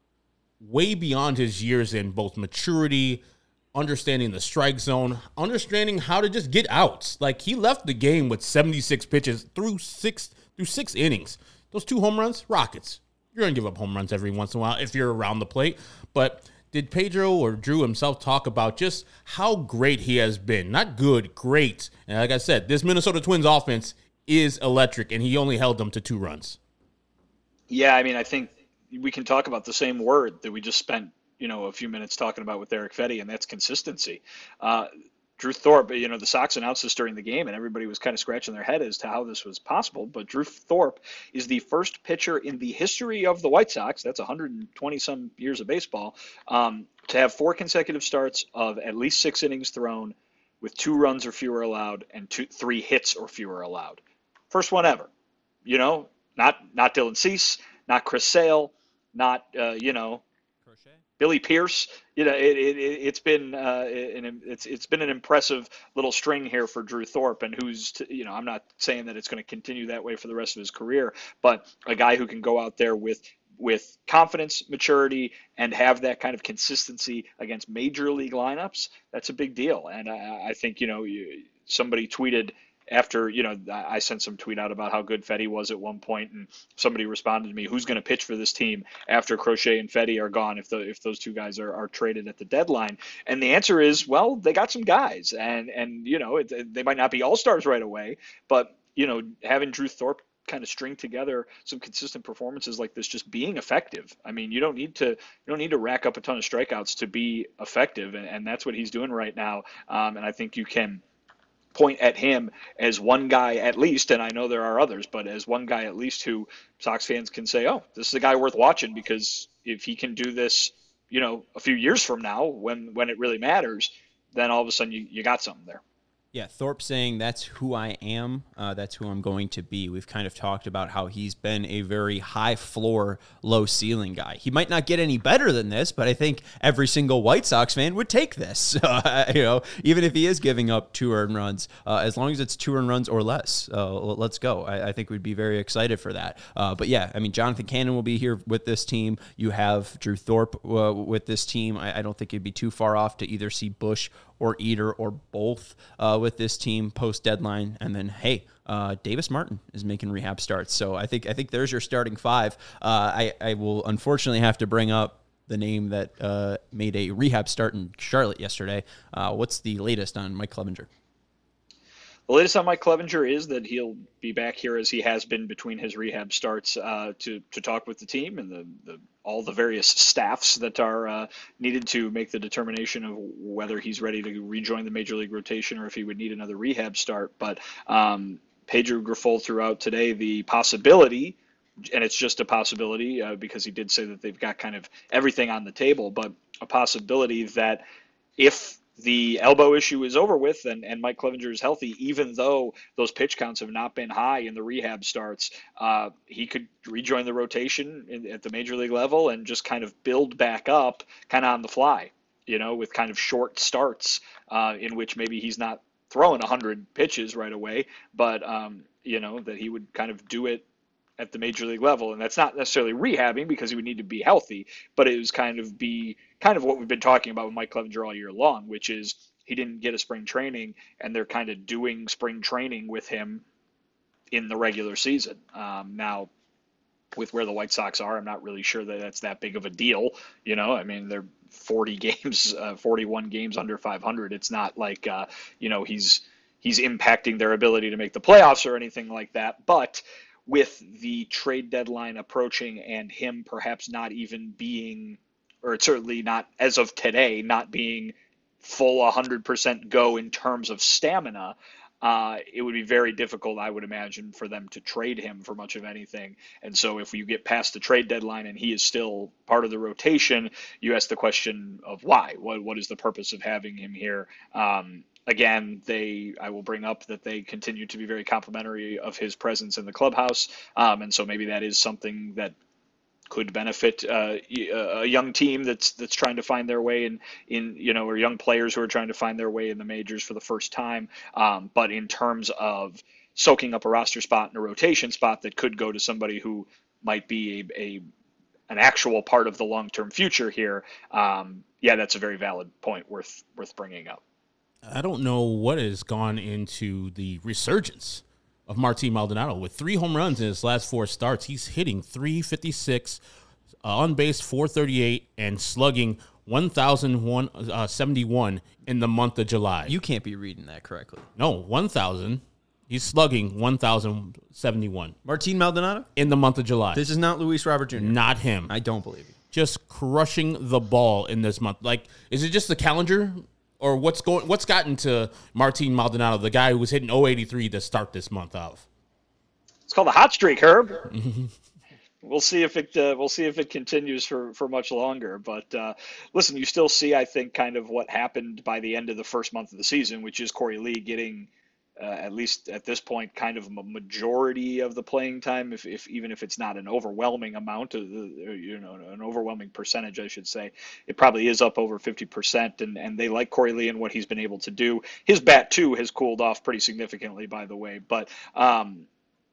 way beyond his years in both maturity, understanding the strike zone, understanding how to just get outs. Like, he left the game with seventy-six pitches through six through six innings. Those two home runs, Rockets. You're going to give up home runs every once in a while if you're around the plate. But did Pedro or Drew himself talk about just how great he has been? Not good, great. And like I said, this Minnesota Twins offense is electric, and he only held them to two runs. Yeah, I mean, I think we can talk about the same word that we just spent, you know, a few minutes talking about with Erick Fedde, and that's consistency. Uh, Drew Thorpe, you know, the Sox announced this during the game, and everybody was kind of scratching their head as to how this was possible. But Drew Thorpe is the first pitcher in the history of the White Sox, that's one hundred twenty some years of baseball, um, to have four consecutive starts of at least six innings thrown with two runs or fewer allowed and two, three hits or fewer allowed. First one ever. You know, not not Dylan Cease, not Chris Sale, not, uh, you know, Billy Pierce. You know, it, it, it's been uh, an, it's it's been an impressive little string here for Drew Thorpe, and who's to, you know, I'm not saying that it's going to continue that way for the rest of his career, but a guy who can go out there with with confidence, maturity, and have that kind of consistency against major league lineups. That's a big deal, and I, I think, you know, you, somebody tweeted after, you know, I sent some tweet out about how good Fedde was at one point, and somebody responded to me, who's going to pitch for this team after Crochet and Fedde are gone if the if those two guys are, are traded at the deadline? And the answer is, well, they got some guys, and, and you know, it, they might not be all-stars right away, but, you know, having Drew Thorpe kind of string together some consistent performances like this, just being effective. I mean, you don't need to you don't need to rack up a ton of strikeouts to be effective, and, and that's what he's doing right now. Um, and I think you can point at him as one guy at least, and I know there are others, but as one guy at least who Sox fans can say, oh, this is a guy worth watching, because if he can do this, you know, a few years from now when, when it really matters, then all of a sudden you, you got something there. Yeah, Thorpe saying that's who I am, uh, that's who I'm going to be. We've kind of talked about how he's been a very high floor, low ceiling guy. He might not get any better than this, but I think every single White Sox fan would take this. Uh, you know, even if he is giving up two earned runs, uh, as long as it's two earned runs or less, uh, let's go. I, I think we'd be very excited for that. Uh, but yeah, I mean, Jonathan Cannon will be here with this team. You have Drew Thorpe uh, with this team. I, I don't think it'd be too far off to either see Bush or Eater or both uh, with this team post deadline. And then, hey, uh, Davis Martin is making rehab starts. So I think I think there's your starting five. Uh, I, I will unfortunately have to bring up the name that uh, made a rehab start in Charlotte yesterday. Uh, what's the latest on Mike Clevenger? The latest on Mike Clevenger is that he'll be back here as he has been between his rehab starts uh, to to talk with the team and the, the all the various staffs that are uh, needed to make the determination of whether he's ready to rejoin the major league rotation or if he would need another rehab start. But um, Pedro Grifol threw out today the possibility, and it's just a possibility uh, because he did say that they've got kind of everything on the table, but a possibility that if the elbow issue is over with and, and Mike Clevenger is healthy, even though those pitch counts have not been high in the rehab starts, uh, he could rejoin the rotation in, at the major league level and just kind of build back up kind of on the fly, you know, with kind of short starts uh, in which maybe he's not throwing one hundred pitches right away, but, um, you know, that he would kind of do it at the major league level. And that's not necessarily rehabbing because he would need to be healthy, but it was kind of be kind of what we've been talking about with Mike Clevenger all year long, which is he didn't get a spring training and they're kind of doing spring training with him in the regular season. Um, now with where the White Sox are, I'm not really sure that that's that big of a deal. You know, I mean, they're forty games, uh, forty-one games under five hundred. It's not like, uh, you know, he's, he's impacting their ability to make the playoffs or anything like that. But with the trade deadline approaching and him perhaps not even being, or certainly not as of today, not being full one hundred percent go in terms of stamina, uh, it would be very difficult, I would imagine, for them to trade him for much of anything. And so if you get past the trade deadline and he is still part of the rotation, you ask the question of why? What What is the purpose of having him here? Um, Again, they I will bring up that they continue to be very complimentary of his presence in the clubhouse, um, and so maybe that is something that could benefit uh, a young team that's that's trying to find their way in, in you know, or young players who are trying to find their way in the majors for the first time. Um, but in terms of soaking up a roster spot and a rotation spot that could go to somebody who might be a, a an actual part of the long-term future here, um, yeah, that's a very valid point worth worth bringing up. I don't know what has gone into the resurgence of Martin Maldonado. With three home runs in his last four starts, he's hitting three fifty-six, uh, on base four thirty-eight, and slugging one thousand seventy-one in the month of July. You can't be reading that correctly. No, one thousand. He's slugging one thousand seventy-one. Martin Maldonado? In the month of July. This is not Luis Robert Junior Not him. I don't believe you. Just crushing the ball in this month. Like, is it just the calendar? Or what's going? What's gotten to Martin Maldonado, the guy who was hitting oh eighty-three to start this month off? It's called a hot streak, Herb. We'll see if it uh, we'll see if it continues for, for much longer. But uh, listen, you still see, I think, kind of what happened by the end of the first month of the season, which is Corey Lee getting, uh, at least at this point, kind of a majority of the playing time, if, if even if it's not an overwhelming amount, of the, you know, an overwhelming percentage, I should say. It probably is up over fifty percent, and, and they like Corey Lee and what he's been able to do. His bat, too, has cooled off pretty significantly, by the way. But, um,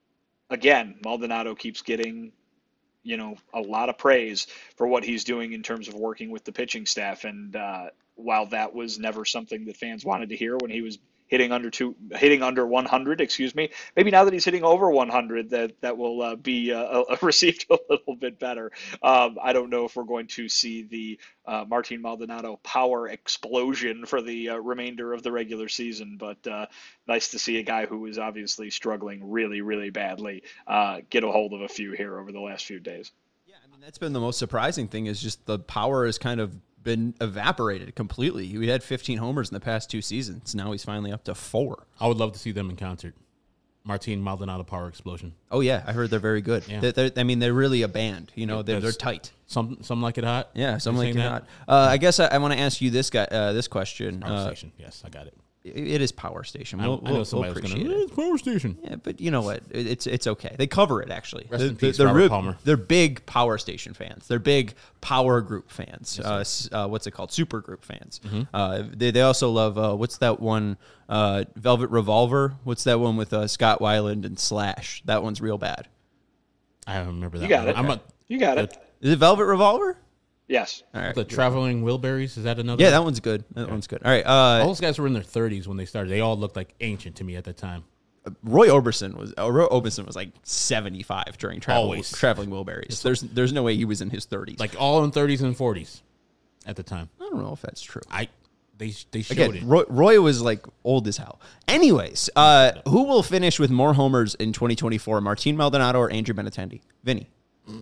again, Maldonado keeps getting, you know, a lot of praise for what he's doing in terms of working with the pitching staff. And uh, while that was never something that fans wanted to hear when he was hitting under two, hitting under one hundred, excuse me. Maybe now that he's hitting over one hundred, that that will uh, be uh, received a little bit better. Um, I don't know if we're going to see the uh, Martin Maldonado power explosion for the uh, remainder of the regular season, but uh, nice to see a guy who is obviously struggling really, really badly uh, get a hold of a few here over the last few days. Yeah, I mean, that's been the most surprising thing, is just the power has kind of been evaporated completely. He had fifteen homers in the past two seasons. Now he's finally up to four. I would love to see them in concert. Martin Maldonado Power Explosion. Oh, yeah. I heard they're very good. Yeah. They're, they're, I mean, they're really a band. You know, they're, they're tight. Some some like it hot. Yeah, some You're like it saying hot. Uh, I guess I, I want to ask you this guy, uh, this question. Power Uh, Station. Yes, I got it. It is Power Station. I, We'll, I know we'll, somebody we'll was appreciate going, it. it's Power Station. Yeah, but you know what? It- It's it's okay. They cover it actually. Rest They're, in peace, they're, Robert real- Palmer. They're big Power Station fans. They're big Power Group fans. Yes, uh, s- uh, what's it called? Super Group fans. Mm-hmm. Uh, they they also love uh, what's that one? Uh, Velvet Revolver. What's that one with uh, Scott Weiland and Slash? That one's real bad. I don't remember that. You got one. it. I'm a, You got it. Is it Velvet Revolver? Yes. All right. the Traveling Wilburys. Is that another? Yeah, that one's good. That one's good. All right. Uh, All those guys were in their thirties when they started. They all looked like ancient to me at the time. Roy Orbison was uh, Roy Orbison was like seventy-five during travel, Always. traveling Wilburys. There's there's no way he was in his thirties. Like all in thirties and forties at the time. I don't know if that's true. I they they showed Again, it. Roy, Roy was like old as hell. Anyways, uh, who will finish with more homers in twenty twenty-four, Martin Maldonado or Andrew Benintendi? Vinny.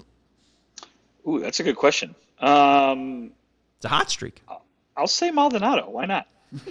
Ooh, that's a good question. Um, It's a hot streak. I'll say Maldonado. Why not?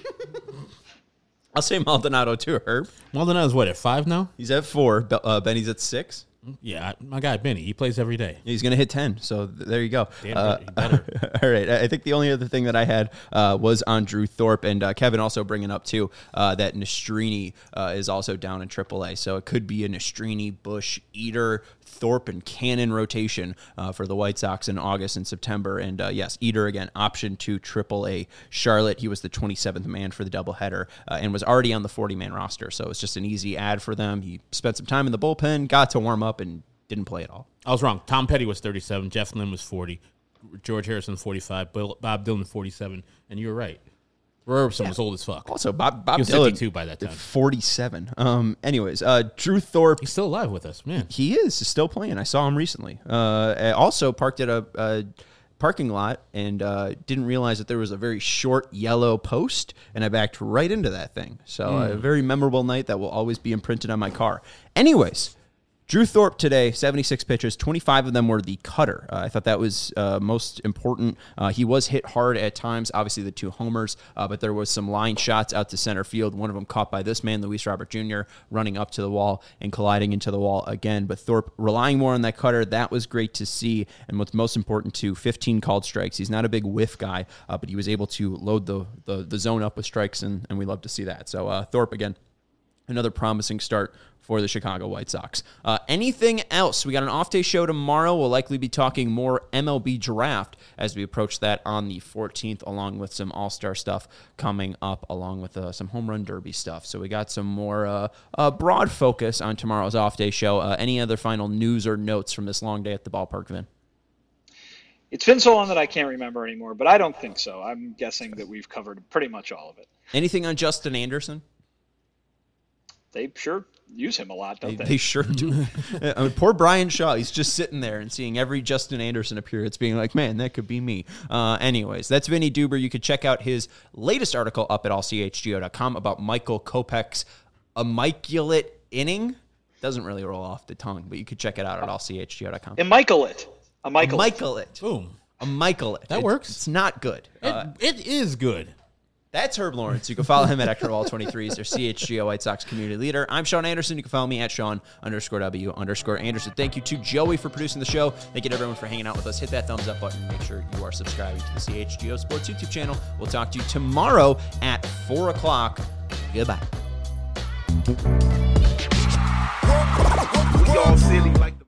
I'll say Maldonado too, Herb. Maldonado's what, at five now? He's at four. Be- Uh, Benny's at six. Yeah, my guy Benny. He plays every day. He's going to hit ten, so th- there you go. Damn Uh, right, he better. all right. I I think the only other thing that I had uh, was on Drew Thorpe, and uh, Kevin also bringing up, too, uh, that Nastrini uh, is also down in triple A, so it could be a Nastrini, Bush, Eater, Thorpe, and Cannon rotation uh, for the White Sox in August and September. And, uh, yes, Eater, again, option to triple A Charlotte. He was the twenty-seventh man for the doubleheader uh, and was already on the forty-man roster, so it's just an easy add for them. He spent some time in the bullpen, got to warm up, and didn't play at all. I was wrong. Tom Petty was thirty-seven. Jeff Lynn was forty. George Harrison forty-five. Bill, Bob Dylan forty-seven. And you were right. Roy Orbison was old as fuck. Also, Bob Bob He was Dylan, fifty-two by that time. forty-seven. Um. Anyways, uh, Drew Thorpe. He's still alive with us, man. He is still playing. I saw him recently. Uh, I also parked at a, a parking lot and uh, didn't realize that there was a very short yellow post, and I backed right into that thing. So Mm. a very memorable night that will always be imprinted on my car. Anyways. Drew Thorpe today, seventy-six pitches, twenty-five of them were the cutter. Uh, I thought that was uh, most important. Uh, he was hit hard at times, obviously the two homers, uh, but there was some line shots out to center field. One of them caught by this man, Luis Robert Junior, running up to the wall and colliding into the wall again. But Thorpe relying more on that cutter, that was great to see. And what's most important, too, fifteen called strikes. He's not a big whiff guy, uh, but he was able to load the, the, the zone up with strikes, and, and we love to see that. So uh, Thorpe, again, another promising start for the Chicago White Sox. Uh, anything else? We got an off-day show tomorrow. We'll likely be talking more M L B draft as we approach that on the fourteenth, along with some all-star stuff coming up, along with uh, some home run derby stuff. So we got some more uh, uh, broad focus on tomorrow's off-day show. Uh, any other final news or notes from this long day at the ballpark, Vin? It's been so long that I can't remember anymore, but I don't think so. I'm guessing that we've covered pretty much all of it. Anything on Justin Anderson? They sure use him a lot, don't They, they? they sure do. I mean, poor Brian Shaw. He's just sitting there and seeing every Justin Anderson appearance being like, man, that could be me. Uh, anyways, that's Vinny Duber. You could check out his latest article up at all c h g o dot com about Michael Kopech's immaculate inning. Doesn't really roll off the tongue, but you could check it out at all c h g o dot com. Immaculate. A Michael. Immaculate. Boom. Immaculate. That It- works. It's not good. It, Uh, it is good. That's Herb Lawrence. You can follow him at Hector of all twenty-three. He's their C H G O White Sox community leader. I'm Sean Anderson. You can follow me at Sean underscore W underscore Anderson. Thank you to Joey for producing the show. Thank you to everyone for hanging out with us. Hit that thumbs up button. Make sure you are subscribing to the C H G O Sports YouTube channel. We'll talk to you tomorrow at four o'clock. Goodbye. We all silly like the